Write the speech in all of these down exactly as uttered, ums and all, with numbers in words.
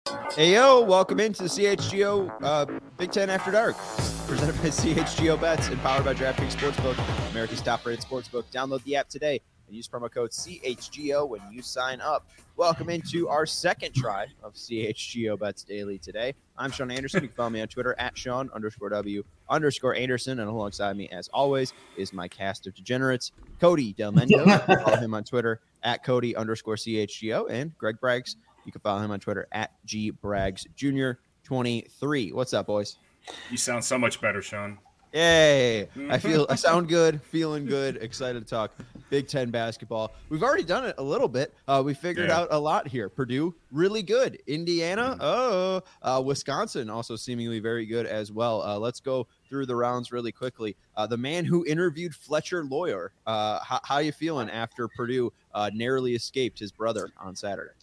Hey, yo, welcome into the C H G O uh, Big Ten After Dark, presented by C H G O Bets and powered by DraftKings Sportsbook, America's top-rated sportsbook. Download the app today and use promo code C H G O when you sign up. Welcome into our second try of C H G O Bets Daily today. I'm Sean Anderson. You can follow me on Twitter at Sean underscore W underscore Anderson. And alongside me, as always, is my cast of degenerates, Cody Del Mendo. You can follow him on Twitter at Cody underscore C H G O, and Greg Braggs. You can follow him on Twitter at G Braggs Junior twenty-three. What's up, boys? You sound so much better, Sean. Yay! I feel I sound good, feeling good, excited to talk Big Ten basketball. We've already done it a little bit. Uh, we figured yeah. out a lot here. Purdue, really good. Indiana, mm-hmm. oh, uh, Wisconsin, also seemingly very good as well. Uh, let's go through the rounds really quickly. Uh, the man who interviewed Fletcher Loyer, uh, how, how you feeling after Purdue uh, narrowly escaped his brother on Saturday?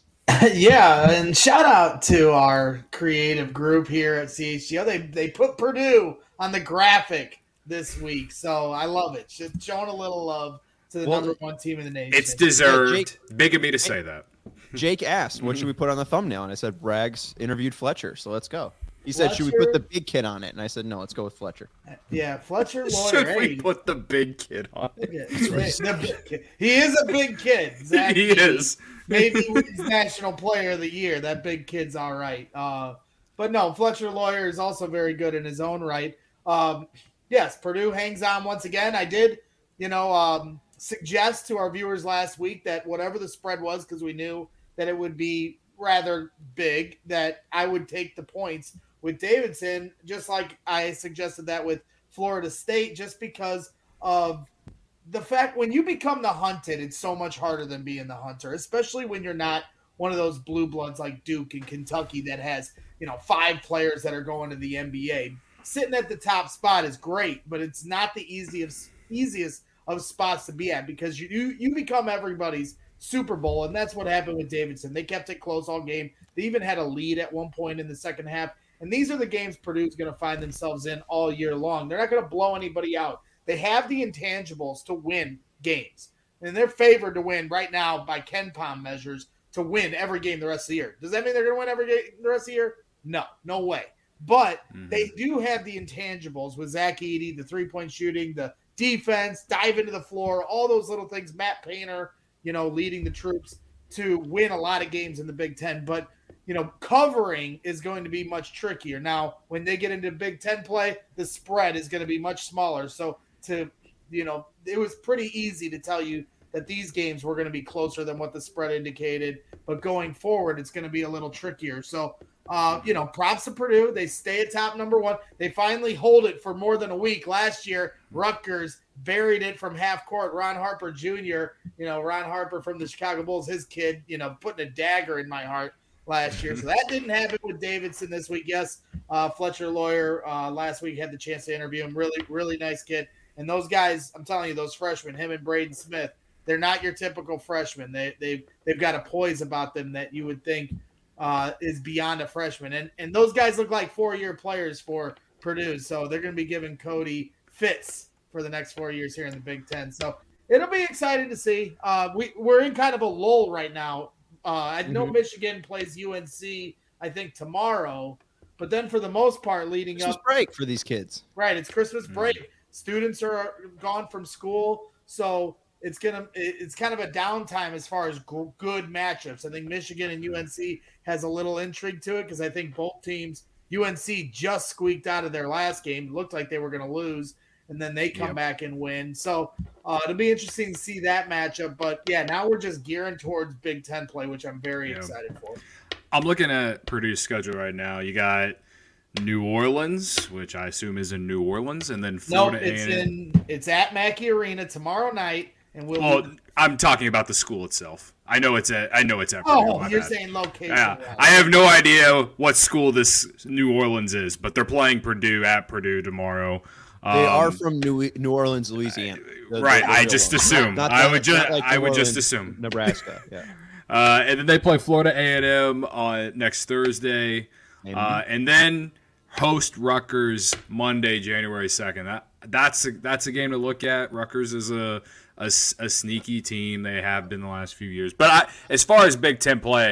Yeah, and shout out to our creative group here at C H G O. They they put Purdue on the graphic this week, so I love it. Just showing a little love to the well, number one team in the nation. It's deserved. Yeah, Jake, Big of me to say that. Jake asked, what should we put on the thumbnail? And I said, Braggs interviewed Fletcher, so let's go. He said, Fletcher, should we put the big kid on it? And I said, no, let's go with Fletcher. Yeah, Fletcher Loyer. Should we put the big kid on it? The big kid. He is a big kid. Zach he is. Maybe he's National Player of the Year. That big kid's all right. Uh, but no, Fletcher Loyer is also very good in his own right. Um, yes, Purdue hangs on once again. I did, you know, um, suggest to our viewers last week that whatever the spread was, because we knew that it would be rather big, that I would take the points with Davidson, just like I suggested that with Florida State, just because of the fact when you become the hunted, it's so much harder than being the hunter, especially when you're not one of those blue bloods like Duke and Kentucky that has, you know, five players that are going to the N B A. Sitting at the top spot is great, but it's not the easiest easiest of spots to be at because you you, you become everybody's Super Bowl, and that's what happened with Davidson. They kept it close all game. They even had a lead at one point in the second half, and these are the games Purdue's going to find themselves in all year long. They're not going to blow anybody out. They have the intangibles to win games, and they're favored to win right now by Ken Pom measures to win every game the rest of the year. Does that mean they're going to win every game the rest of the year? No, no way. But mm-hmm. they do have the intangibles with Zach Edey, the three-point shooting, the defense, dive into the floor, all those little things. Matt Painter, you know, leading the troops to win a lot of games in the Big Ten. But, you know, covering is going to be much trickier. Now, when they get into Big Ten play, the spread is going to be much smaller. So, to, you know, it was pretty easy to tell you that these games were going to be closer than what the spread indicated. But going forward, it's going to be a little trickier. So, uh, you know, props to Purdue. They stay at top number one. They finally hold it for more than a week. Last year, Rutgers buried it from half court. Ron Harper Junior, you know, Ron Harper from the Chicago Bulls, his kid, you know, putting a dagger in my heart last year. So that didn't happen with Davidson this week. Yes, uh, Fletcher Loyer uh, last week had the chance to interview him. Really, really nice kid. And those guys, I'm telling you, those freshmen, him and Braden Smith, they're not your typical freshmen. They, they've, they've got a poise about them that you would think uh, is beyond a freshman. And, and those guys look like four-year players for Purdue. So they're going to be giving Cody fits for the next four years here in the Big Ten. So it'll be exciting to see. Uh, we, we're in kind of a lull right now. Uh, I know mm-hmm. Michigan plays U N C, I think, tomorrow. But then for the most part, leading Christmas up – break for these kids. Right, it's Christmas break. Mm-hmm. Students are gone from school, so it's gonna it's kind of a downtime as far as g- good matchups. I think Michigan and U N C has a little intrigue to it because I think both teams, U N C just squeaked out of their last game, it looked like they were going to lose, and then they come yep. back and win. So uh, it'll be interesting to see that matchup. But yeah, now we're just gearing towards Big Ten play, which I'm very yep. excited for. I'm looking at Purdue's schedule right now. You got New Orleans, which I assume is in New Orleans, and then Florida. No, it's A and M. in it's at Mackey Arena tomorrow night, and we'll. Oh, be... I'm talking about the school itself. I know it's at. I know it's at. Oh, Purdue, you're bad. saying location. Yeah, right. I have no idea what school this New Orleans is, but they're playing Purdue at Purdue tomorrow. They um, are from New New Orleans, Louisiana. The, right, the, the I just one. assume. Not, not I the, would just. Like I would Orleans, just assume. Nebraska. Yeah. Uh, and then they play Florida A and M on next Thursday, uh, and then host Rutgers Monday, January second. That that's a, that's a game to look at. Rutgers is a, a, a sneaky team. They have been the last few years. But I, as far as Big Ten play,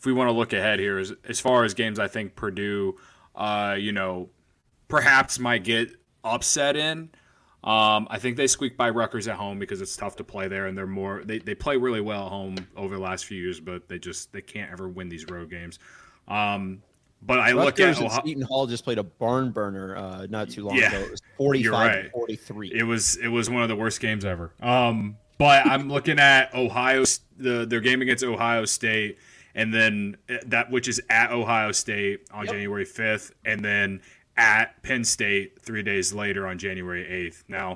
if we want to look ahead here, as, as far as games I think Purdue, uh, you know, perhaps might get upset in. Um, I think they squeak by Rutgers at home because it's tough to play there, and they're more they, they play really well at home over the last few years, but they just they can't ever win these road games. Um, but I Rutgers look at and Ohio- Seton Hall just played a barn burner uh, not too long Yeah, ago. It was forty-five right. to forty-three. It was it was one of the worst games ever. Um, but I'm looking at Ohio the their game against Ohio State, and then that which is at Ohio State on Yep. January fifth, and then at Penn State three days later on January eighth. Now,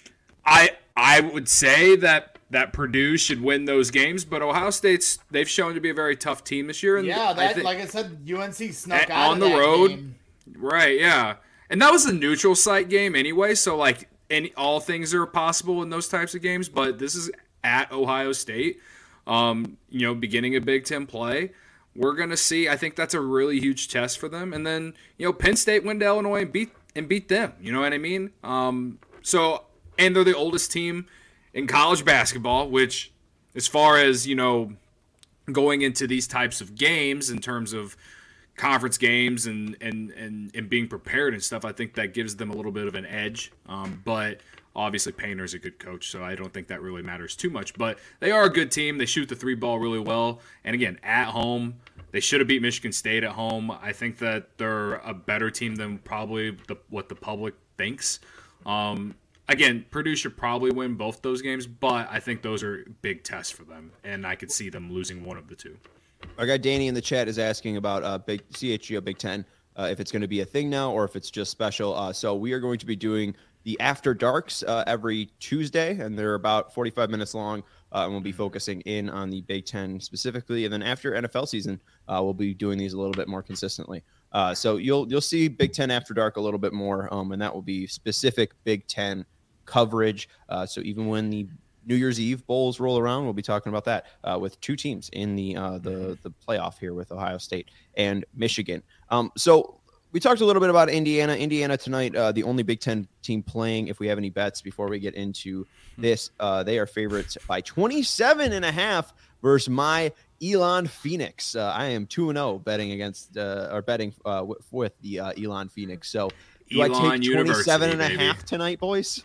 I I would say that that Purdue should win those games, but Ohio State's they've shown to be a very tough team this year. And Yeah, that I think, like I said, U N C snuck At- out on of the that road. game. right, yeah, and that was a neutral site game anyway. So like any all things are possible in those types of games, but this is at Ohio State. Um, you know, beginning of Big Ten play. We're gonna see. I think that's a really huge test for them. And then, you know, Penn State went to Illinois and beat and beat them. You know what I mean? Um, so and they're the oldest team in college basketball, which, as far as you know, going into these types of games in terms of conference games and and and, and being prepared and stuff, I think that gives them a little bit of an edge. Um, but obviously, Painter's a good coach, so I don't think that really matters too much. But they are a good team. They shoot the three ball really well. And again, at home, they should have beat Michigan State at home. I think that they're a better team than probably the, what the public thinks. Um, again, Purdue should probably win both those games, but I think those are big tests for them, and I could see them losing one of the two. Our guy Danny in the chat is asking about uh, big C H G O Big Ten, uh, if it's going to be a thing now or if it's just special. Uh, so we are going to be doing the After Darks uh, every Tuesday, and they're about forty-five minutes long, uh, and we'll be focusing in on the Big Ten specifically. And then after N F L season, uh, we'll be doing these a little bit more consistently. Uh, so you'll you'll see Big Ten After Dark a little bit more, um, and that will be specific Big Ten coverage. Uh, so even when the New Year's Eve bowls roll around, we'll be talking about that uh, with two teams in the uh, the the playoff here with Ohio State and Michigan. Um, so we talked a little bit about Indiana. Indiana tonight, uh, the only Big Ten team playing. If we have any bets before we get into this, uh, they are favorites by twenty-seven and a half versus my Elon Phoenix. Uh, I am two and zero betting against uh, or betting uh, with, with the uh, Elon Phoenix. So do Elon I take twenty-seven and a University, half tonight, boys?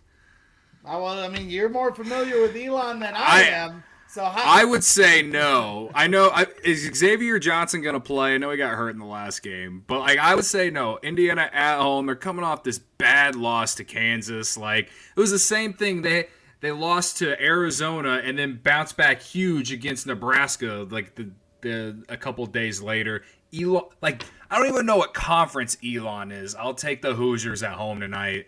I, well, I mean, you're more familiar with Elon than I, I- am. So how, I would say no. I know. I, is Xavier Johnson going to play? I know he got hurt in the last game, but like I would say no. Indiana at home. They're coming off this bad loss to Kansas. Like it was the same thing. They they lost to Arizona and then bounced back huge against Nebraska. Like the the a couple days later. Elon, like I don't even know what conference Elon is. I'll take the Hoosiers at home tonight.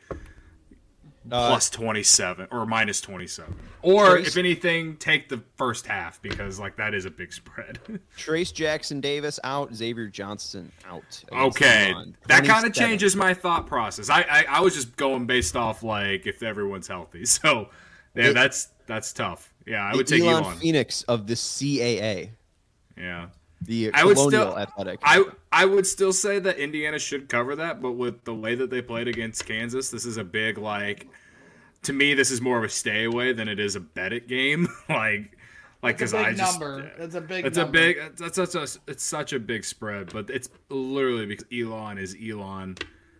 Uh, Plus twenty-seven or minus twenty-seven. Or Trace- if anything, take the first half because like that is a big spread. Trace Jackson Davis out, Xavier Johnson out. against Okay. Elon. That kind of twenty-seven. changes my thought process. I, I I was just going based off like if everyone's healthy. So yeah, It- that's that's tough. Yeah, I The would take Elon Elon. Phoenix of the C A A, Yeah. the I would Colonial still Athletic. I I would still say that Indiana should cover that, but with the way that they played against Kansas, this is a big like to me this is more of a stay away than it is a bet it game. like like That's because a I big just number. That's a big It's number. a big. That's such a. It's such a big spread, but it's literally because Elon is Elon.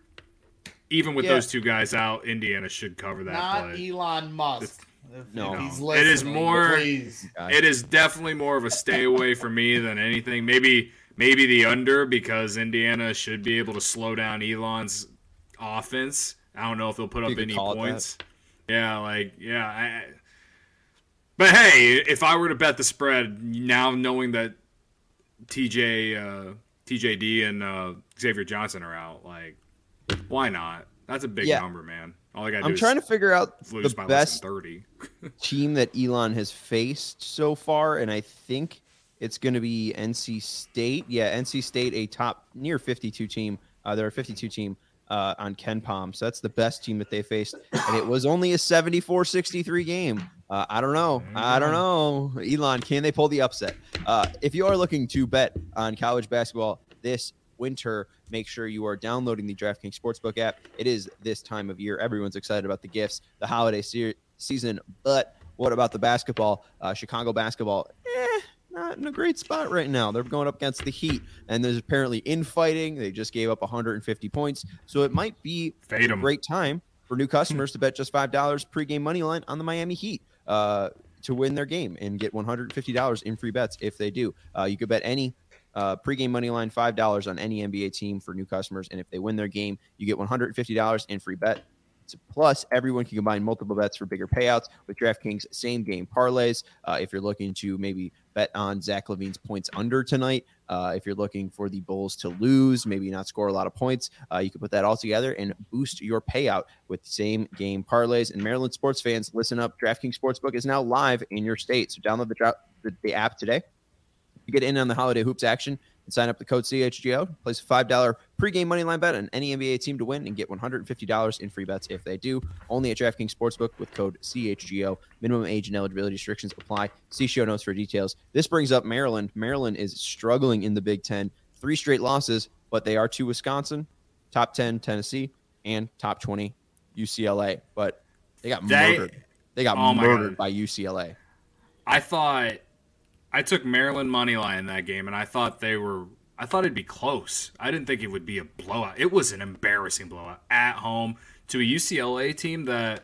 Even with Yeah. those two guys out, Indiana should cover that. Not but Elon Musk. If, No. if he's No. It is listening, more- Please. it is definitely more of a stay away for me than anything. Maybe maybe the under because Indiana should be able to slow down Elon's offense. I don't know if they'll put You up could any call it points. Yeah, like yeah. I, but hey, if I were to bet the spread now, knowing that T J uh, T J D and uh, Xavier Johnson are out, like why not? That's a big Yeah. number, man. All I got to do I'm is trying to figure out lose the by less best than thirty. team that Elon has faced so far, and I think it's going to be N C State. Yeah, N C State, a top near fifty-two team. Uh, they're a fifty-two team uh, on Ken Palm, so that's the best team that they faced, and it was only a seventy-four sixty-three game. Uh, I don't know. I don't know. Elon, can they pull the upset? Uh, if you are looking to bet on college basketball this winter, make sure you are downloading the DraftKings Sportsbook app. It is this time of year. Everyone's excited about the gifts, the holiday se- season, but what about the basketball? Uh, Chicago basketball, eh, not in a great spot right now. They're going up against the Heat, and there's apparently infighting. They just gave up one hundred fifty points, so it might be Fade a 'em. great time for new customers to bet just five dollars pregame money line on the Miami Heat uh, to win their game and get one hundred fifty dollars in free bets if they do. Uh, you could bet any uh, pregame money line five dollars on any N B A team for new customers, and if they win their game, you get one hundred fifty dollars in free bet. Plus, everyone can combine multiple bets for bigger payouts with DraftKings same-game parlays. Uh, if you're looking to maybe bet on Zach LaVine's points under tonight, uh, if you're looking for the Bulls to lose, maybe not score a lot of points, uh, you can put that all together and boost your payout with same-game parlays. And Maryland sports fans, listen up. DraftKings Sportsbook is now live in your state, so download the, the, the app today. You get in on the holiday hoops action and sign up the code C H G O. Place a five dollars pregame moneyline bet on any N B A team to win and get one hundred fifty dollars in free bets if they do. Only at DraftKings Sportsbook with code C H G O. Minimum age and eligibility restrictions apply. See show notes for details. This brings up Maryland. Maryland is struggling in the Big Ten. Three straight losses, but they are to Wisconsin, top ten Tennessee, and top twenty U C L A. But they got They- murdered. They got Oh my murdered God. by U C L A. I thought I took Maryland money line in that game, and I thought they were. I thought it'd be close. I didn't think it would be a blowout. It was an embarrassing blowout at home to a U C L A team that.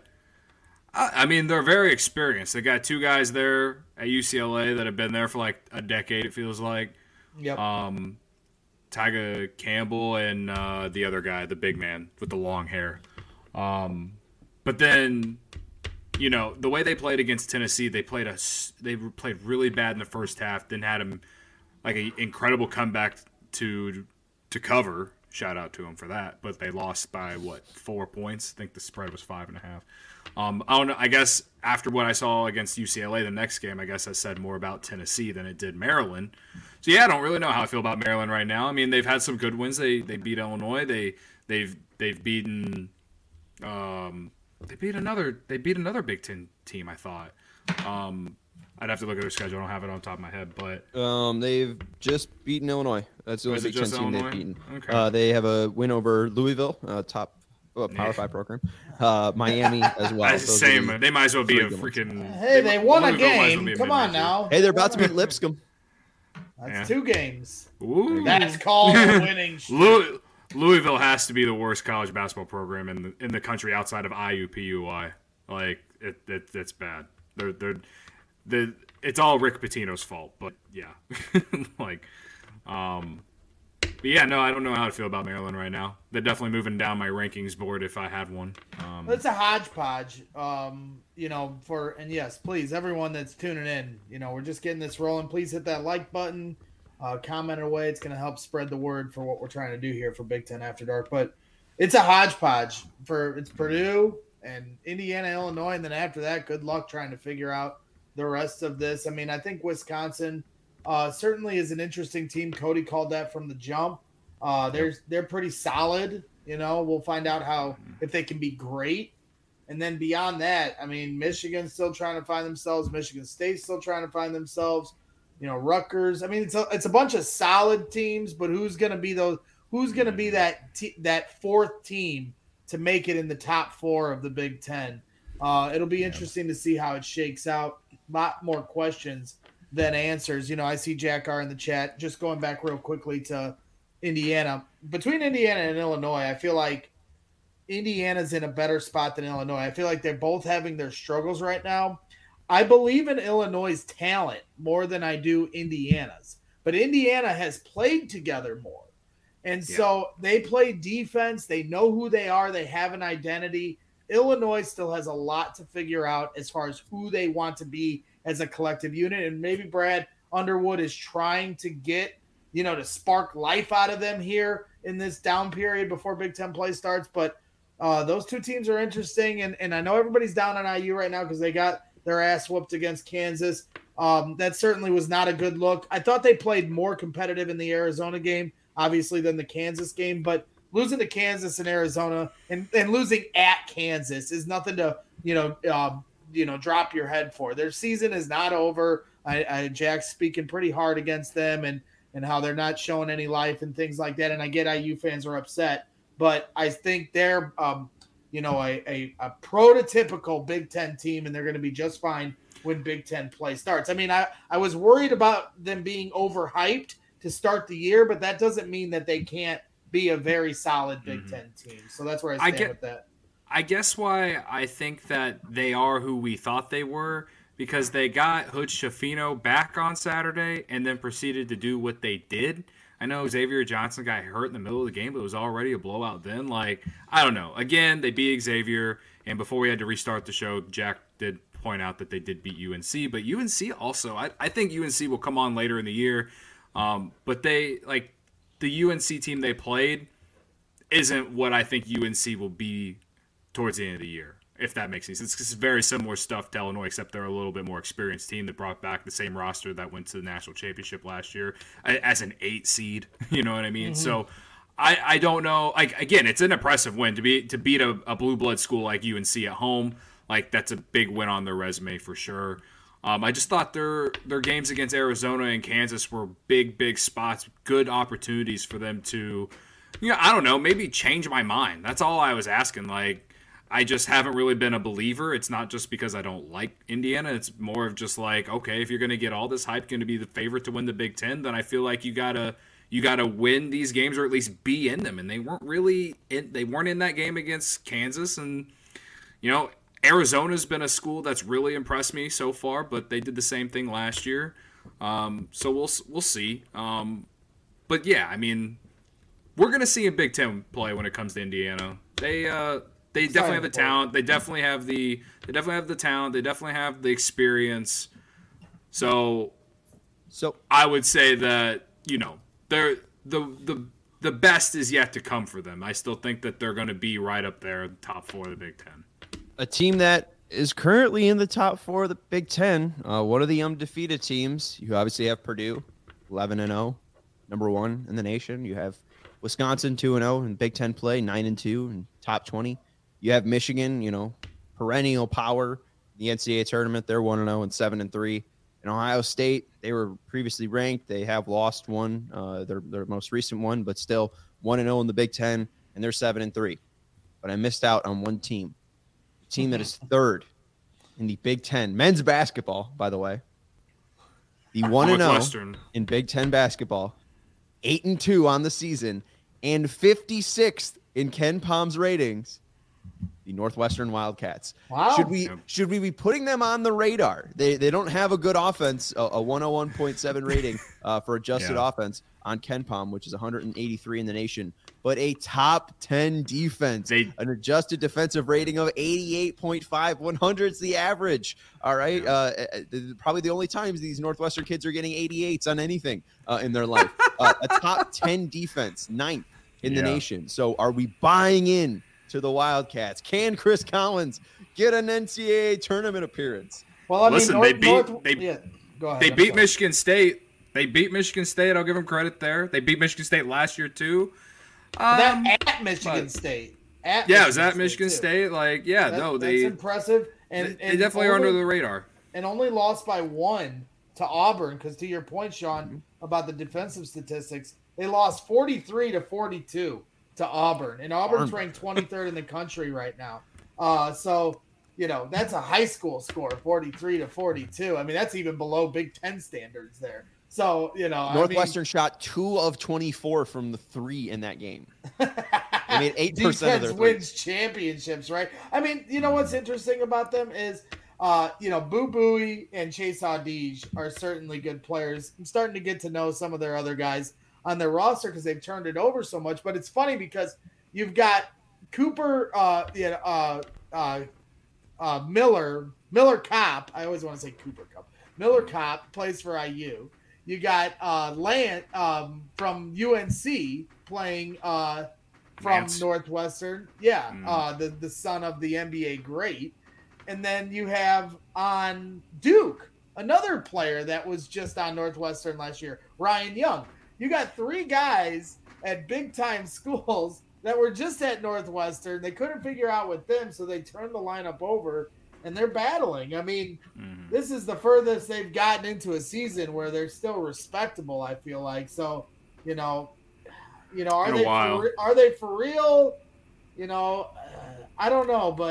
I I mean, they're very experienced. They got two guys there at U C L A that have been there for like a decade. It feels like. Yep. Um, Tyga Campbell and uh, the other guy, the big man with the long hair. Um, but then, you know, the way they played against Tennessee, they played a they played really bad in the first half. Then had them like an incredible comeback to to cover. Shout out to them for that. But they lost by what four points? I think the spread was five and a half. Um, I don't know. I guess after what I saw against U C L A the next game, I guess I said more about Tennessee than it did Maryland. So yeah, I don't really know how I feel about Maryland right now. I mean, they've had some good wins. They they beat Illinois. They they've they've beaten. Um, they beat another. They beat another Big Ten team. I thought. Um, I'd have to look at their schedule. I don't have it on top of my head, but Um, they've just beaten Illinois. That's the Oh, only is it Big Ten just team Illinois? they've beaten. Okay. Uh, they have a win over Louisville, uh, top uh, Power Yeah. Five program. Uh, Miami as well. That's the Those are same. the- They might as well be three a good ones. freaking. Hey, they won a Louisville might as well game. be a Come on mid-major. now. Hey, they're about to beat Lipscomb. That's Yeah. two games. Ooh. That's called a winning streak. Louis, Louisville has to be the worst college basketball program in the in the country outside of I U P U I. Like it, it it's bad. They're they're the it's all Rick Pitino's fault. But yeah, like um, but yeah, no, I don't know how to feel about Maryland right now. They're definitely moving down my rankings board if I had one. Um, It's a hodgepodge, um, you know, for, and yes, please, everyone that's tuning in, you know, we're just getting this rolling. Please hit that like button, uh, comment away. It's going to help spread the word for what we're trying to do here for Big Ten After Dark. But it's a hodgepodge for, it's Purdue and Indiana, Illinois. And then after that, good luck trying to figure out the rest of this. I mean, I think Wisconsin uh, certainly is an interesting team. Cody called that from the jump. Uh, they're, they're pretty solid. You know, we'll find out how, if they can be great. And then beyond that, I mean, Michigan's still trying to find themselves. Michigan State's still trying to find themselves. You know, Rutgers. I mean, it's a, it's a bunch of solid teams, but who's going to be those? Who's going to be that te- that fourth team to make it in the top four of the Big Ten? Uh, it'll be interesting to see how it shakes out. A lot more questions than answers. You know, I see Jack R in the chat. Just going back real quickly to Indiana. Between Indiana and Illinois, I feel like Indiana's in a better spot than Illinois. I feel like they're both having their struggles right now. I believe in Illinois' talent more than I do Indiana's. But Indiana has played together more. And Yeah. so they play defense. They know who they are. They have an identity. Illinois still has a lot to figure out as far as who they want to be as a collective unit. And maybe Brad Underwood is trying to get, you know, to spark life out of them here in this down period before Big Ten play starts. But uh, those two teams are interesting. And, and I know everybody's down on I U right now because they got their ass whooped against Kansas. Um, that certainly was not a good look. I thought they played more competitive in the Arizona game, obviously, than the Kansas game. But losing to Kansas and Arizona and, and losing at Kansas is nothing to, you know, uh, you know, drop your head for. Their season is not over. I, I Jack's speaking pretty hard against them and, and how they're not showing any life and things like that. And I get I U fans are upset, but I think they're, um, you know, a, a, a prototypical Big Ten team, and they're going to be just fine when Big Ten play starts. I mean, I, I was worried about them being overhyped to start the year, but that doesn't mean that they can't be a very solid Big mm-hmm. Ten team. So that's where I stand I get, with that. I guess why I think that they are who we thought they were, because they got Hood Schifino back on Saturday and then proceeded to do what they did. I know Xavier Johnson got hurt in the middle of the game, but it was already a blowout then. Like, I don't know. Again, they beat Xavier, and before we had to restart the show, Jack did point out that they did beat U N C. But U N C also, I, I think U N C will come on later in the year. Um, but they, like, the U N C team they played isn't what I think U N C will be towards the end of the year, if that makes sense. It's, it's very similar stuff to Illinois, except they're a little bit more experienced team that brought back the same roster that went to the national championship last year as an eight seed. You know what I mean? Mm-hmm. So I, I don't know. Like, again, it's an impressive win to be to beat a, a blue blood school like U N C at home. Like, that's a big win on their resume for sure. Um, I just thought their their games against Arizona and Kansas were big, big spots, good opportunities for them to, you know, I don't know, maybe change my mind. That's all I was asking. Like, I just haven't really been a believer. It's not just because I don't like Indiana. It's more of just like, okay, if you're going to get all this hype, going to be the favorite to win the Big Ten, then I feel like you gotta you gotta win these games or at least be in them. And they weren't really in, they weren't in that game against Kansas. And you know, Arizona's been a school that's really impressed me so far, but they did the same thing last year. Um, so we'll we'll see. Um, but yeah, I mean, we're gonna see a Big Ten play when it comes to Indiana. They uh, They definitely have the talent. They definitely have the. They definitely have the talent. They definitely have the experience. So, so I would say that you know they're the the the best is yet to come for them. I still think that they're going to be right up there, top four of the Big Ten. A team that is currently in the top four of the Big Ten. Uh, one of the undefeated teams. You obviously have Purdue, eleven and zero, number one in the nation. You have Wisconsin, two and zero in Big Ten play, nine and two and top twenty. You have Michigan, you know, perennial power in the N C double A tournament. They're one and zero and seven and three. And Ohio State, they were previously ranked. They have lost one, uh, their their most recent one, but still one and zero in the Big Ten, and they're seven and three. But I missed out on one team, a team that is third in the Big Ten men's basketball. By the way, the one and zero in Big Ten basketball, eight and two on the season, and fifty-sixth in Ken Palm's ratings. The Northwestern Wildcats. Wow. Should we should we be putting them on the radar? They they don't have a good offense, a, a one oh one point seven rating uh, for adjusted yeah. offense on Ken Palm, which is one hundred eighty-three in the nation, but a top ten defense, they, an adjusted defensive rating of eighty-eight point five. one hundred is the average. All right, yeah. uh, probably the only times these Northwestern kids are getting eighty-eights on anything uh, in their life. uh, a top ten defense, ninth in the yeah. nation. So are we buying in to the Wildcats? Can Chris Collins get an N C double A tournament appearance? Well, I mean, listen, North, they beat North, they, yeah, go ahead, they I'm beat sorry. Michigan State. They beat Michigan State. I'll give them credit there. They beat Michigan State last year too. Um, that at Michigan but, State. At yeah, Michigan it was at State Michigan too. State. Like, yeah, that, no, they that's impressive. And they, and they definitely only, are under the radar. And only lost by one to Auburn. Because to your point, Sean, mm-hmm. about the defensive statistics, they lost forty-three to forty-two to Auburn, and Auburn's ranked twenty-third in the country right now. Uh, so, you know, that's a high school score, forty-three to forty-two. I mean, that's even below Big Ten standards there. So, you know, Northwestern I mean, shot two of twenty-four from the three in that game. I mean, eight percent of their threes. Wins championships, right? I mean, you know what's interesting about them is, uh, you know, Boo Buie and Chase Audige are certainly good players. I'm starting to get to know some of their other guys on their roster because they've turned it over so much. But it's funny because you've got Cooper, uh, you know, uh, uh, uh, Miller, Miller Kopp. I always want to say Cooper Kupp. Miller Kopp plays for I U. You got uh, Lant um, from U N C playing uh, from Lance. Northwestern. Yeah, Mm. uh, the the son of the N B A great. And then you have on Duke another player that was just on Northwestern last year, Ryan Young. You got three guys at big time schools that were just at Northwestern. They couldn't figure out with them, so they turned the lineup over, and they're battling. I mean, mm-hmm. this is the furthest they've gotten into a season where they're still respectable, I feel like. So, you know, you know, are they for, are they for real? You know, uh, I don't know, but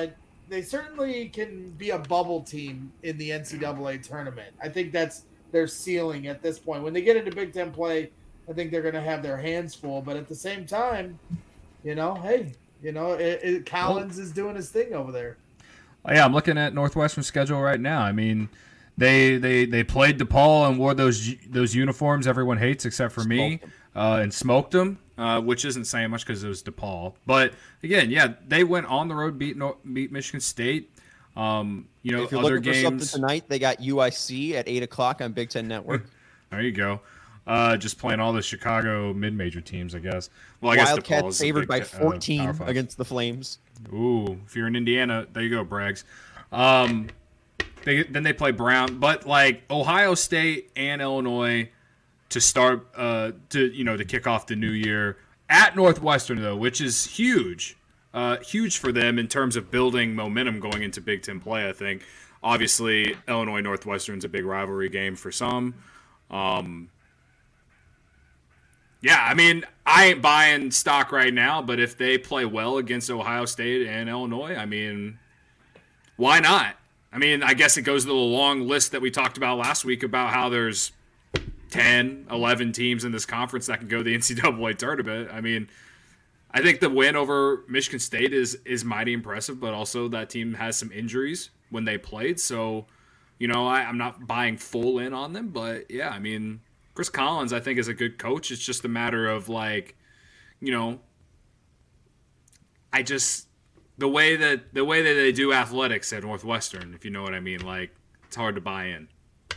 they certainly can be a bubble team in the N C double A tournament. I think that's their ceiling at this point. When they get into Big Ten play, I think they're going to have their hands full. But at the same time, you know, hey, you know, it, it, Collins well, is doing his thing over there. Oh, yeah, I'm looking at Northwestern's schedule right now. I mean, they they they played DePaul and wore those those uniforms everyone hates except for me, uh, and smoked them, uh, which isn't saying much because it was DePaul. But again, yeah, they went on the road, beat beat Michigan State. Um, you know, if you're other looking games for something tonight, they got U I C at eight o'clock on Big Ten Network. There you go. Uh, just playing all the Chicago mid-major teams, I guess. Well, I guess Wildcats favored by fourteen uh, against the Flames. Ooh, if you're in Indiana, there you go, Braggs. Um, they, then they play Brown, but like Ohio State and Illinois to start, uh, to you know, to kick off the new year at Northwestern though, which is huge, uh, huge for them in terms of building momentum going into Big Ten play. I think obviously Illinois Northwestern's a big rivalry game for some. Um, Yeah, I mean, I ain't buying stock right now, but if they play well against Ohio State and Illinois, I mean, why not? I mean, I guess it goes to the long list that we talked about last week about how there's ten, eleven teams in this conference that can go to the N C double A tournament. I mean, I think the win over Michigan State is is mighty impressive, but also that team has some injuries when they played. So, you know, I, I'm not buying full in on them, but yeah, I mean, Chris Collins, I think, is a good coach. It's just a matter of, like, you know, I just the way that the way that they do athletics at Northwestern, if you know what I mean, like, it's hard to buy in.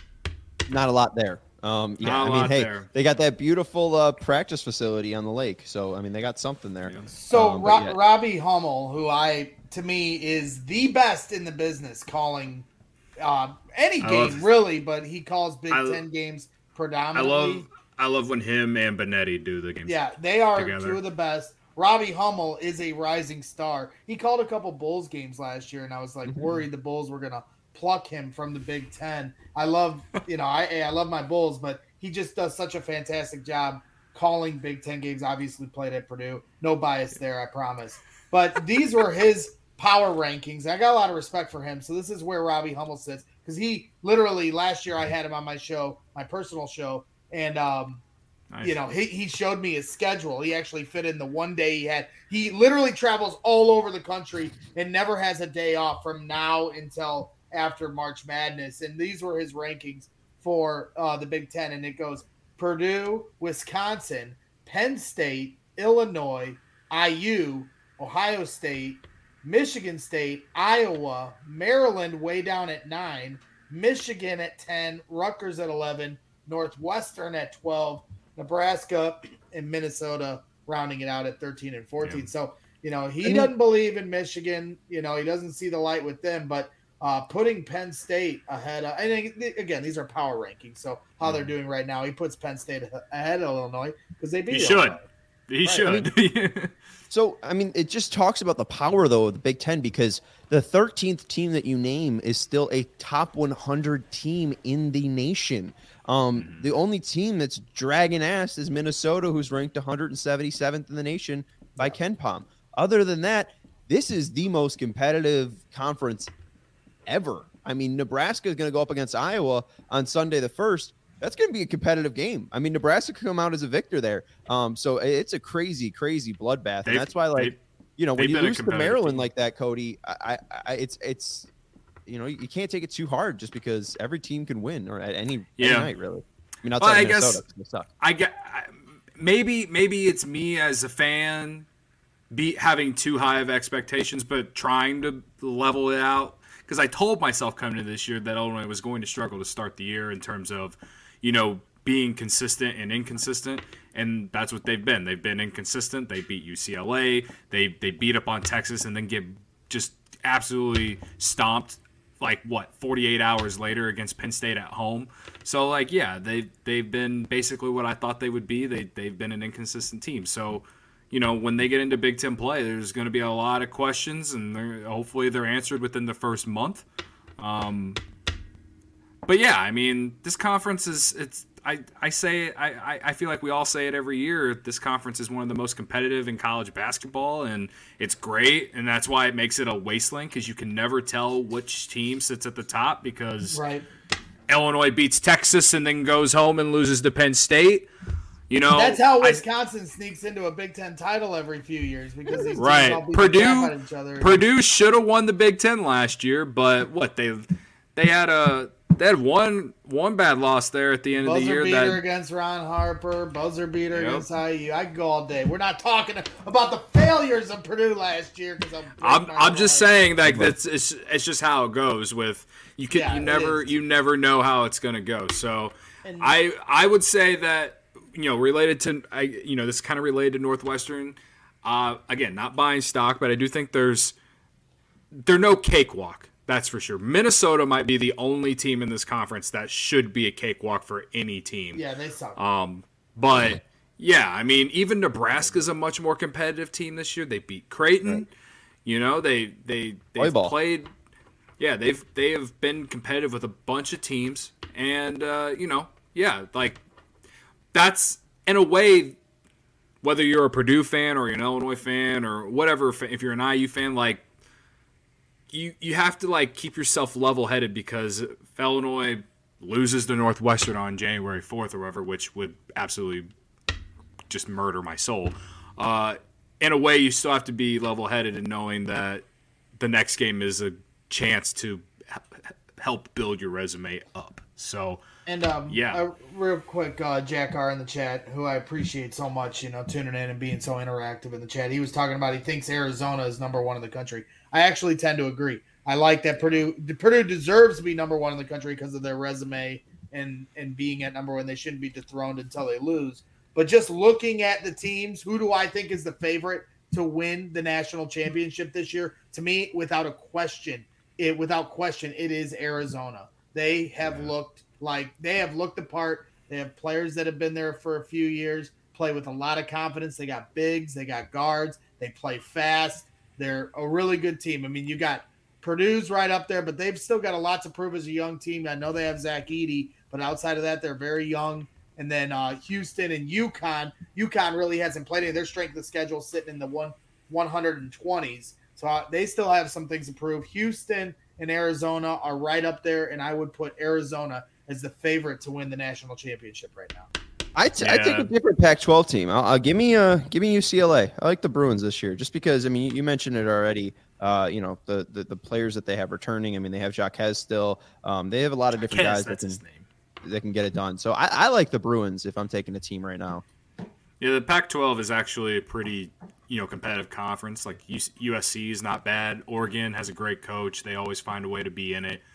Not a lot there. Um, yeah, Not a I mean, lot hey, there. they got that beautiful uh, practice facility on the lake, so I mean, they got something there. Yeah. So Um, but Ro- yeah. Robbie Hummel, who I to me is the best in the business calling uh, any I game love- really, but he calls Big I- Ten games I predominantly. love I love when him and Benetti do the games. Yeah, they are together. two of the best. Robbie Hummel is a rising star. He called a couple Bulls games last year, and I was like Mhm. worried the Bulls were gonna pluck him from the Big Ten. I love, you know, I I love my Bulls, but he just does such a fantastic job calling Big Ten games. Obviously played at Purdue, no bias there, I promise. But these were his power rankings. I got a lot of respect for him. So this is where Robbie Hummel sits, because he literally last year I had him on my show, my personal show, and um, Nice. you know, he, he showed me his schedule. He actually fit in the one day he had. He literally travels all over the country and never has a day off from now until after March Madness. And these were his rankings for uh, the Big Ten. And it goes Purdue, Wisconsin, Penn State, Illinois, I U, Ohio State, Michigan State, Iowa, Maryland way down at nine, Michigan at ten, Rutgers at eleven, Northwestern at twelve, Nebraska and Minnesota rounding it out at thirteen and fourteen. Yeah. So, you know, he And- doesn't believe in Michigan. You know, he doesn't see the light with them, but uh, putting Penn State ahead of, and again, these are power rankings. So how they're doing right now, he puts Penn State ahead of Illinois because they beat He should. Illinois. He Right. should. So, I mean, it just talks about the power, though, of the Big Ten, because the thirteenth team that you name is still a top one hundred team in the nation. Um, Mm-hmm. The only team that's dragging ass is Minnesota, who's ranked one hundred seventy-seventh in the nation by Ken Pom. Other than that, this is the most competitive conference ever. I mean, Nebraska is going to go up against Iowa on Sunday the first. That's going to be a competitive game. I mean, Nebraska could come out as a victor there. Um, so it's a crazy, crazy bloodbath, They've- and that's why, like, they've- you know, when they've you been a lose to competitive Maryland team. like that, Cody, I, I, it's, it's, you know, you can't take it too hard just because every team can win or at any, Yeah. any night, really. I mean, outside Well, I of Minnesota, guess- it's gonna suck. I get I- maybe maybe it's me as a fan be having too high of expectations, but trying to level it out, because I told myself coming into this year that Illinois was going to struggle to start the year in terms of, you know, being consistent and inconsistent, and that's what they've been. They've been inconsistent. They beat U C L A. They they beat up on Texas and then get just absolutely stomped. Like what, forty-eight hours later against Penn State at home. So like, yeah, they they've been basically what I thought they would be. They they've been an inconsistent team. So, you know, when they get into Big Ten play, there's going to be a lot of questions, and they're, hopefully they're answered within the first month. Um, but yeah, I mean, this conference is it's I, I say it, I, I feel like we all say it every year. This conference is one of the most competitive in college basketball, and it's great, and that's why it makes it a wasteland because you can never tell which team sits at the top because right. Illinois beats Texas and then goes home and loses to Penn State. You know, that's how Wisconsin I, sneaks into a Big Ten title every few years because these teams right. all beat Purdue, the crap out of each other. Purdue should have won the Big Ten last year, but what they they had a they had one one bad loss there at the end buzzer of the year. Beater that, against Ron Harper, buzzer beater yep. against I U. I could go all day. We're not talking about the failures of Purdue last year because I'm. I'm I'm just saying like that's it's it's just how it goes with you can yeah, you never you never know how it's gonna go. So and, I I would say that. You know, related to, I you know, this is kind of related to Northwestern. Uh, again, not buying stock, but I do think there's, they're no cakewalk. That's for sure. Minnesota might be the only team in this conference that should be a cakewalk for any team. Yeah, they suck. Um, but yeah, I mean, even Nebraska's a much more competitive team this year. They beat Creighton. Right. You know, they they they've played. Yeah, they've they have been competitive with a bunch of teams, and uh, you know, yeah, like. That's, in a way, whether you're a Purdue fan or you're an Illinois fan or whatever, if you're an I U fan, like, you you have to, like, keep yourself level-headed because if Illinois loses to Northwestern on January fourth or whatever, which would absolutely just murder my soul, uh, in a way, you still have to be level-headed and knowing that the next game is a chance to help build your resume up. So... And um, yeah, uh, real quick, uh, Jack R in the chat, who I appreciate so much, you know, tuning in and being so interactive in the chat. He was talking about he thinks Arizona is number one in the country. I actually tend to agree. I like that Purdue Purdue deserves to be number one in the country because of their resume and and being at number one. They shouldn't be dethroned until they lose. But just looking at the teams, who do I think is the favorite to win the national championship this year? To me, without a question, it without question, it is Arizona. They have yeah. looked. Like, they have looked the part. They have players that have been there for a few years, play with a lot of confidence. They got bigs. They got guards. They play fast. They're a really good team. I mean, you got Purdue's right up there, but they've still got a lot to prove as a young team. I know they have Zach Edey, but outside of that, they're very young. And then uh, Houston and UConn. UConn really hasn't played any. Their strength of schedule sitting in the one, one hundred twenties. So uh, they still have some things to prove. Houston and Arizona are right up there, and I would put Arizona – as the favorite to win the national championship right now. I t- yeah. I take a different Pac twelve team. I'll, I'll give me uh give me U C L A. I like the Bruins this year, just because. I mean, you mentioned it already. Uh, you know the, the the players that they have returning. I mean, they have Jaquez still. Um, they have a lot of different Jaquez, guys that can his name. that can get it done. So I, I like the Bruins if I'm taking a team right now. Yeah, the Pac twelve is actually a pretty you know competitive conference. Like U S C is not bad. Oregon has a great coach. They always find a way to be in it.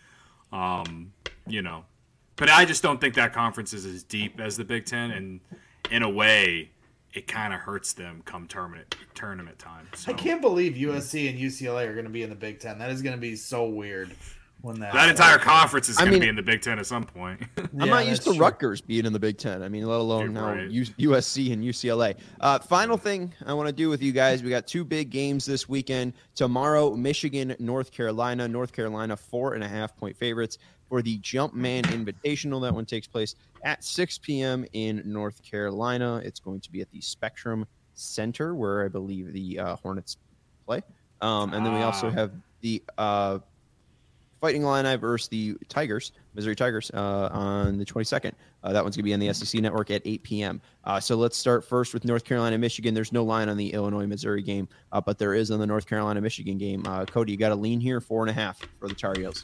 Um, you know. But I just don't think that conference is as deep as the Big Ten, and in a way, it kind of hurts them come tournament tournament time. So. I can't believe U S C and U C L A are going to be in the Big Ten. That is going to be so weird. When that that entire conference is going to be in the Big Ten at some point. I'm yeah, not used to true. Rutgers being in the Big Ten. I mean, let alone You're now right. U S C and U C L A. Uh, final thing I want to do with you guys, we got two big games this weekend. Tomorrow, Michigan, North Carolina. North Carolina, four and a half point favorites for the Jumpman Invitational. That one takes place at six p.m. in North Carolina. It's going to be at the Spectrum Center, where I believe the uh, Hornets play. Um, and then we also have the uh, Fighting Illini versus the Tigers, Missouri Tigers, uh, on the twenty-second. Uh, that one's going to be on the S E C Network at eight p.m. Uh, so let's start first with North Carolina, Michigan. There's no line on the Illinois-Missouri game, uh, but there is on the North Carolina-Michigan game. Uh, Cody, you got to lean here, four and a half for the Tar Heels.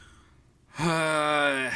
Uh,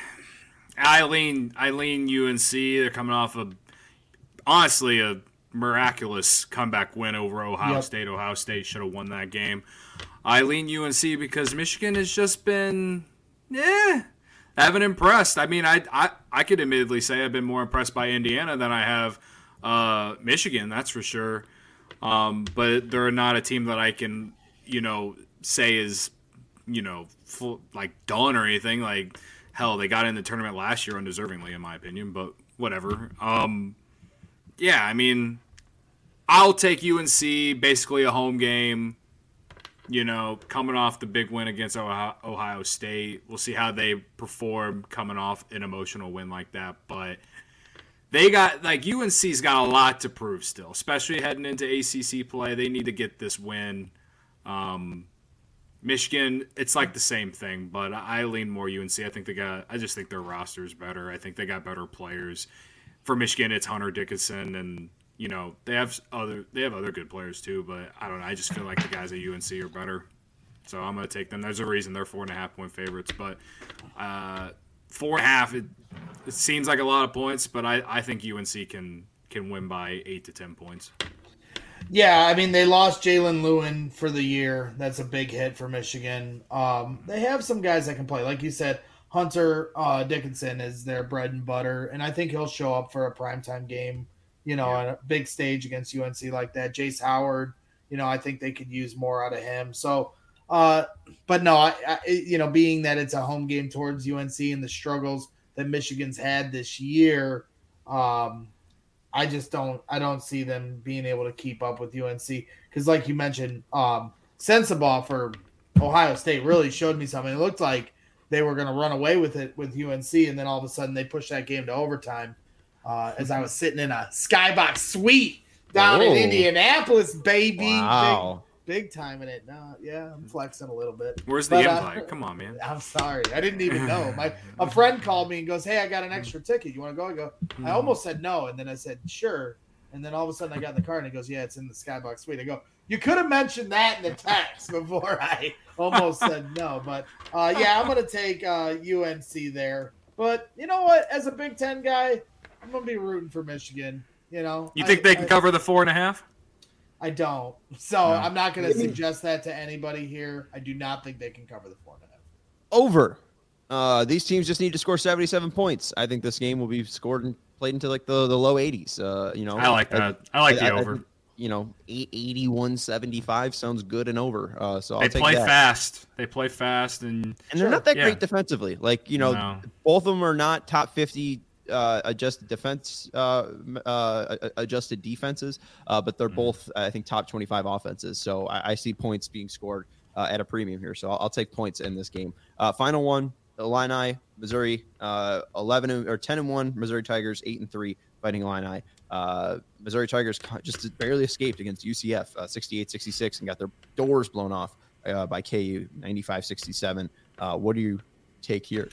I lean, I lean U N C. They're coming off of, honestly, a miraculous comeback win over Ohio yep. State. Ohio State should have won that game. I lean U N C because Michigan has just been, yeah, haven't impressed. I mean, I, I, I could admittedly say I've been more impressed by Indiana than I have uh, Michigan, that's for sure. Um, but they're not a team that I can, you know, say is, you know, full, like done or anything. Like, hell, they got in the tournament last year undeservingly, in my opinion, but whatever. Um, yeah, I mean, I'll take U N C, basically a home game. You know, coming off the big win against Ohio State. We'll see how they perform coming off an emotional win like that. But they got like U N C's got a lot to prove still, especially heading into A C C play. They need to get this win. Um, Michigan, it's like the same thing, but I lean more U N C. I think they got. I just think their roster is better. I think they got better players. For Michigan, it's Hunter Dickinson, and you know they have other they have other good players too. But I don't know. I just feel like the guys at U N C are better, so I'm gonna take them. There's a reason they're four and a half point favorites, but uh, four and a half. It, it seems like a lot of points, but I, I think U N C can can win by eight to ten points. Yeah, I mean, they lost Jalen Lewin for the year. That's a big hit for Michigan. Um, they have some guys that can play. Like you said, Hunter uh, Dickinson is their bread and butter, and I think he'll show up for a primetime game, you know, yeah. on a big stage against U N C like that. Jace Howard, you know, I think they could use more out of him. So, uh, but no, I, I, you know, being that it's a home game towards U N C and the struggles that Michigan's had this year, um, I just don't I don't see them being able to keep up with U N C because, like you mentioned, um, Sensabaugh for Ohio State really showed me something. It looked like they were going to run away with it with U N C, and then all of a sudden they pushed that game to overtime. Uh, as I was sitting in a skybox suite down Whoa. in Indianapolis, baby, wow. big, big time in it. No, yeah, I'm flexing a little bit. Where's the but, invite? Uh, Come on, man. I'm sorry, I didn't even know. My a friend called me and goes, "Hey, I got an extra ticket. You want to go?" I go. I almost said no, and then I said sure, and then all of a sudden I got in the car and he goes, "Yeah, it's in the skybox suite." I go, "You could have mentioned that in the text before I almost said no." But uh, yeah, I'm gonna take uh, U N C there. But you know what? As a Big Ten guy, I'm gonna be rooting for Michigan. You know, you think I, they can I, cover the four and a half? I don't. So no. I'm not going to suggest that to anybody here. I do not think they can cover the four and a half. Over. Uh, these teams just need to score seventy-seven points. I think this game will be scored and played into like the, the low eighties. Uh, you know, I like that. I, I like I, the I, over. I, you know, eighty-one seventy-five sounds good and over. Uh, so I'll they take play that. fast. They play fast, and and they're sure. not that yeah. great defensively. Like you know, no. both of them are not top fifty. Uh, adjusted defense, uh, uh, adjusted defenses, uh, but they're both, I think, top twenty-five offenses. So I, I see points being scored uh, at a premium here. So I'll, I'll take points in this game. Uh, final one: Illini, Missouri, uh, eleven or ten and one. Missouri Tigers eight and three, fighting Illini. Uh, Missouri Tigers just barely escaped against U C F, uh, sixty-eight sixty-six, and got their doors blown off uh, by K U, ninety-five sixty-seven. Uh, what do you take here?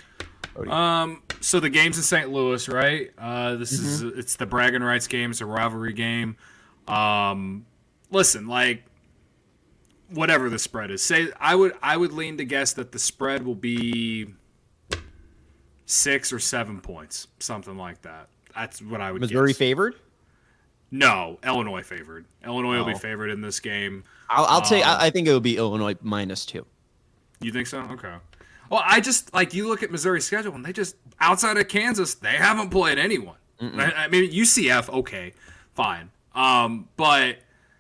Um, so the game's in Saint Louis, right? Uh, this mm-hmm. is it's the bragging rights game. It's a rivalry game. Um, listen, like whatever the spread is, say I would I would lean to guess that the spread will be six or seven points, something like that. That's what I would. Missouri guess. favored? No, Illinois favored. Illinois oh. will be favored in this game. I'll, I'll um, say I, I think it will be Illinois minus two. You think so? Okay. Well, I just, like, you look at Missouri's schedule, and they just, outside of Kansas, they haven't played anyone. I, I mean, U C F, okay, fine. Um, but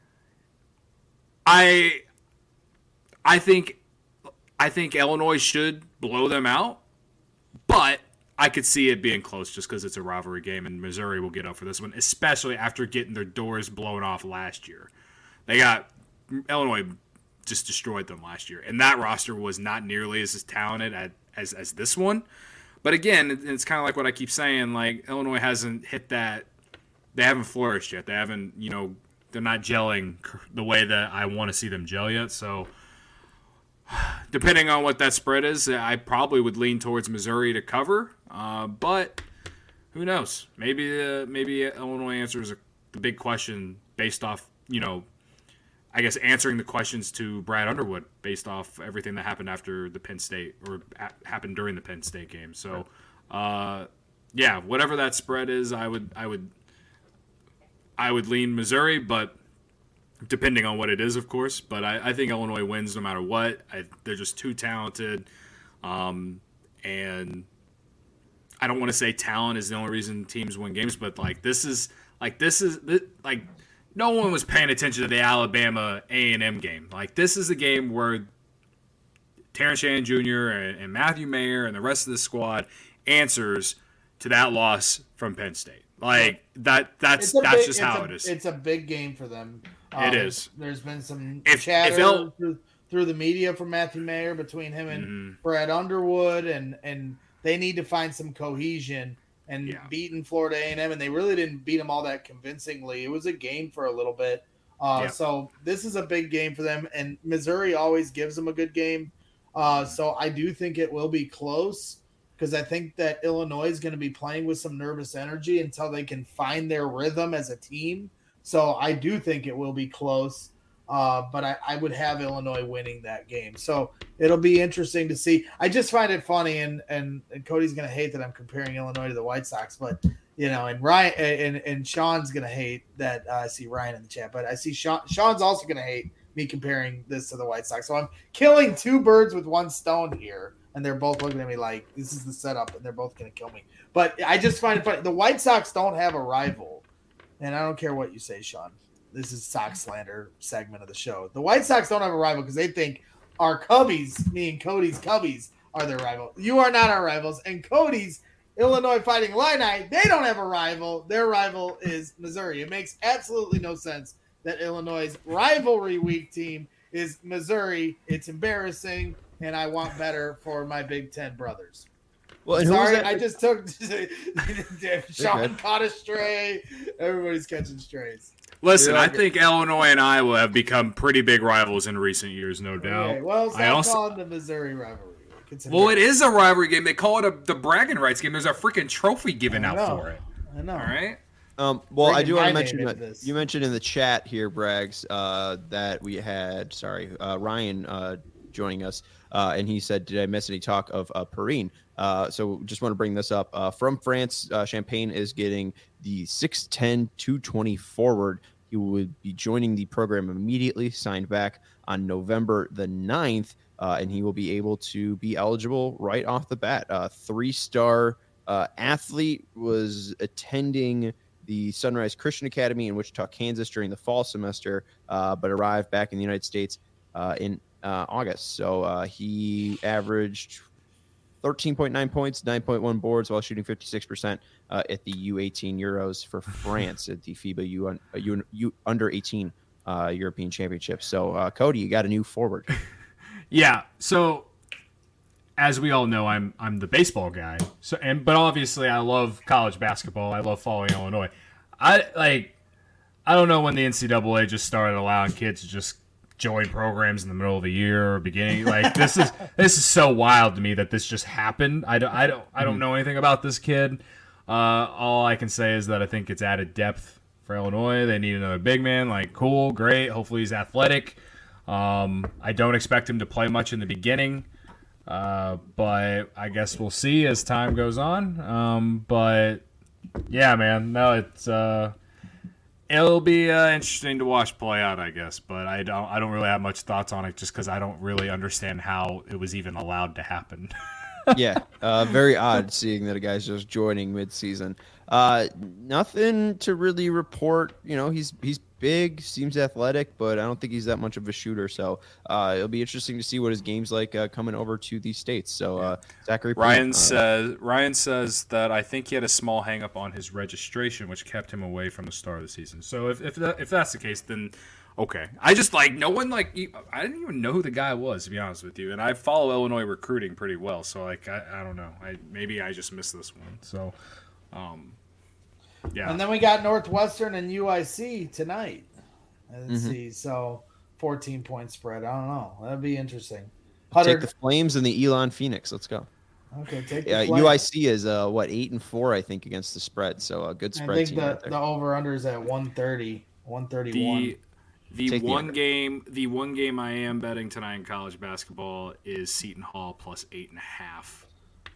I I think I think Illinois should blow them out, but I could see it being close just because it's a rivalry game, and Missouri will get up for this one, especially after getting their doors blown off last year. They got, Illinois just destroyed them last year. And that roster was not nearly as talented at, as as this one. But again, it's kind of like what I keep saying, like Illinois hasn't hit that, they haven't flourished yet. They haven't, you know, they're not gelling the way that I want to see them gel yet. So depending on what that spread is, I probably would lean towards Missouri to cover. Uh, but who knows? Maybe uh, maybe Illinois answers the big question based off, you know, I guess answering the questions to Brad Underwood based off everything that happened after the Penn State or a- happened during the Penn State game. So, uh, yeah, whatever that spread is, I would, I would, I would lean Missouri, but depending on what it is, of course. But I, I think Illinois wins no matter what. I, they're just too talented, um, and I don't want to say talent is the only reason teams win games, but like this is like this is like. No one was paying attention to the Alabama A and M game. Like, this is a game where Terrence Shannon Junior and, and Matthew Mayer and the rest of the squad answers to that loss from Penn State. Like, that that's that's big, just how a, it is. It's a big game for them. Um, it is. There's been some if, chatter if El- through, through the media from Matthew Mayer between him and mm-hmm. Brad Underwood, and, and they need to find some cohesion and yeah. beaten Florida A and M, and they really didn't beat them all that convincingly. It was a game for a little bit. Uh, yeah. So this is a big game for them, and Missouri always gives them a good game. Uh, so I do think it will be close because I think that Illinois is going to be playing with some nervous energy until they can find their rhythm as a team. So I do think it will be close. Uh, but I, I would have Illinois winning that game. So it'll be interesting to see. I just find it funny, and and, and Cody's going to hate that I'm comparing Illinois to the White Sox, but you know, and Ryan and, and Sean's going to hate that uh, I see Ryan in the chat, but I see Sean. Sean's also going to hate me comparing this to the White Sox. So I'm killing two birds with one stone here, and they're both looking at me like this is the setup, and they're both going to kill me. But I just find it funny. The White Sox don't have a rival, and I don't care what you say, Sean. This is Sox slander segment of the show. The White Sox don't have a rival because they think our Cubbies, me and Cody's Cubbies, are their rival. You are not our rivals. And Cody's Illinois Fighting Illini, they don't have a rival. Their rival is Missouri. It makes absolutely no sense that Illinois' rivalry week team is Missouri. It's embarrassing, and I want better for my Big Ten brothers. Well, and sorry, I just took Sean caught a stray. Everybody's catching strays. Listen, like I think it. Illinois and Iowa have become pretty big rivals in recent years, no doubt. Okay, well, stop I also, calling the Missouri rivalry. Well, it is a rivalry game. They call it a, the bragging rights game. There's a freaking trophy given out for it. I know. All right. Um, well, Bringing I do want to my mention name that into this. you mentioned in the chat here, Braggs, uh, that we had sorry uh, Ryan uh, joining us, uh, and he said, "Did I miss any talk of uh, Perrine?" Uh, so just want to bring this up. Uh, from France, uh, Champagne is getting the six ten, two twenty forward. He would be joining the program immediately, signed back on November the ninth, uh, and he will be able to be eligible right off the bat. Uh, three-star uh, athlete, was attending the Sunrise Christian Academy in Wichita, Kansas during the fall semester, uh, but arrived back in the United States uh, in uh, August. So uh, he averaged thirteen point nine points, nine point one boards while shooting fifty-six percent uh, at the U eighteen Euros for France at the FIBA U, uh, U, U under eighteen uh, European Championship. So, uh, Cody, you got a new forward. Yeah. So, as we all know, I'm I'm the baseball guy. So, and but obviously, I love college basketball. I love following Illinois. I like. I don't know when the N C double A just started allowing kids to just join programs in the middle of the year or beginning. Like this is this is so wild to me that this just happened. I don't I don't I don't know anything about this kid. Uh, all I can say is that I think it's added depth for Illinois. They need another big man. Like cool, great. Hopefully he's athletic. Um, I don't expect him to play much in the beginning, uh, but I guess we'll see as time goes on. Um, but yeah, man, no, it's. Uh, It'll be uh, interesting to watch play out, I guess, but I don't. I don't really have much thoughts on it, just because I don't really understand how it was even allowed to happen. Yeah, uh, very odd seeing that a guy's just joining mid-season. Uh, nothing to really report. You know, he's he's big, seems athletic, but I don't think he's that much of a shooter. So uh, it'll be interesting to see what his game's like uh, coming over to these states. So uh, Zachary Ryan uh, says Ryan says that I think he had a small hang-up on his registration, which kept him away from the start of the season. So if if, that, if that's the case, then okay. I just like no one like I didn't even know who the guy was, to be honest with you. And I follow Illinois recruiting pretty well, so like I, I don't know. I maybe I just missed this one. So um, yeah. And then we got Northwestern and U I C tonight. Let's Mm-hmm. see. So fourteen point spread. I don't know. That'd be interesting. take the Flames and the Elon Phoenix. Let's go. Okay, take the Yeah, Flames. U I C is uh, what eight and four, I think, against the spread. So a good I spread think team. the, Right there. the over under is at one thirty, one thirty-one. The the Take the one under. game the one game I am betting tonight in college basketball is Seton Hall plus eight and a half.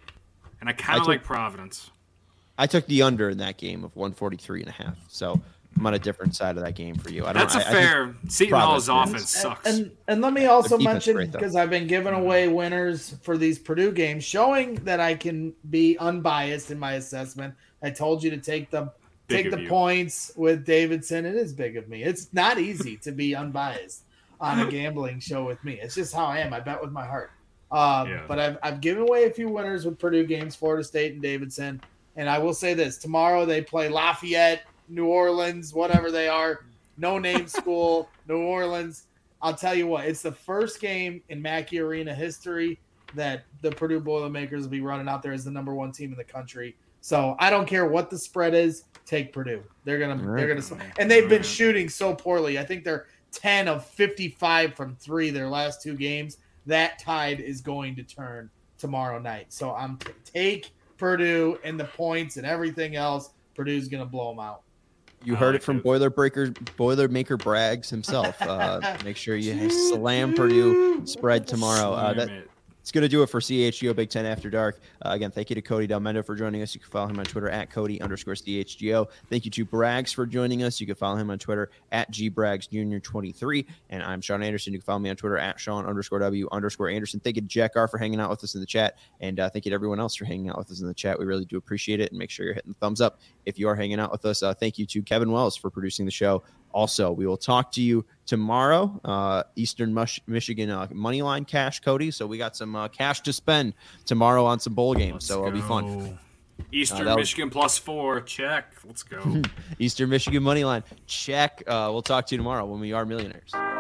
And I kind I of took- like Providence. I took the under in that game of one forty-three and a half. So I'm on a different side of that game for you. I don't, That's a I- I think- fair. Seton Hall's Providence offense And, sucks. and and let me also Their defense mention, great, though. because I've been giving away winners for these Purdue games, showing that I can be unbiased in my assessment. I told you to take the Big take of the you. points with Davidson. It is big of me. It's not easy to be unbiased on a gambling show with me. It's just how I am. I bet with my heart. Um, Yeah. But I've I've given away a few winners with Purdue games, Florida State and Davidson. And I will say this: tomorrow they play Lafayette, New Orleans, whatever they are, no name school, New Orleans. I'll tell you what, it's the first game in Mackey Arena history that the Purdue Boilermakers will be running out there as the number one team in the country. So I don't care what the spread is. Take Purdue. They're gonna Right. they're gonna and they've been shooting so poorly. I think they're ten of fifty-five from three their last two games. That tide is going to turn tomorrow night. So I'm t- take Purdue and the points and everything else. Purdue's gonna blow them out. You heard it from Boilermaker Boilermaker Braggs himself. Uh, make sure you slam Purdue spread tomorrow. Uh, that, it's going to do it for C H G O Big Ten After Dark. Uh, again, thank you to Cody Delmendo for joining us. You can follow him on Twitter at Cody underscore C H G O. Thank you to Braggs for joining us. You can follow him on Twitter at G Braggs Junior twenty-three. And I'm Sean Anderson. You can follow me on Twitter at Sean underscore W underscore Anderson. Thank you to Jack R for hanging out with us in the chat. And uh, thank you to everyone else for hanging out with us in the chat. We really do appreciate it. And make sure you're hitting the thumbs up if you are hanging out with us. Uh, thank you to Kevin Wells for producing the show. Also, we will talk to you tomorrow, uh, Eastern Mich- Michigan uh, money line cash, Cody. So we got some uh, cash to spend tomorrow on some bowl games. Let's so it'll go. be fun. Eastern uh, Michigan was... plus four, check. Let's go. Eastern Michigan money line, check. Uh, we'll talk to you tomorrow when we are millionaires.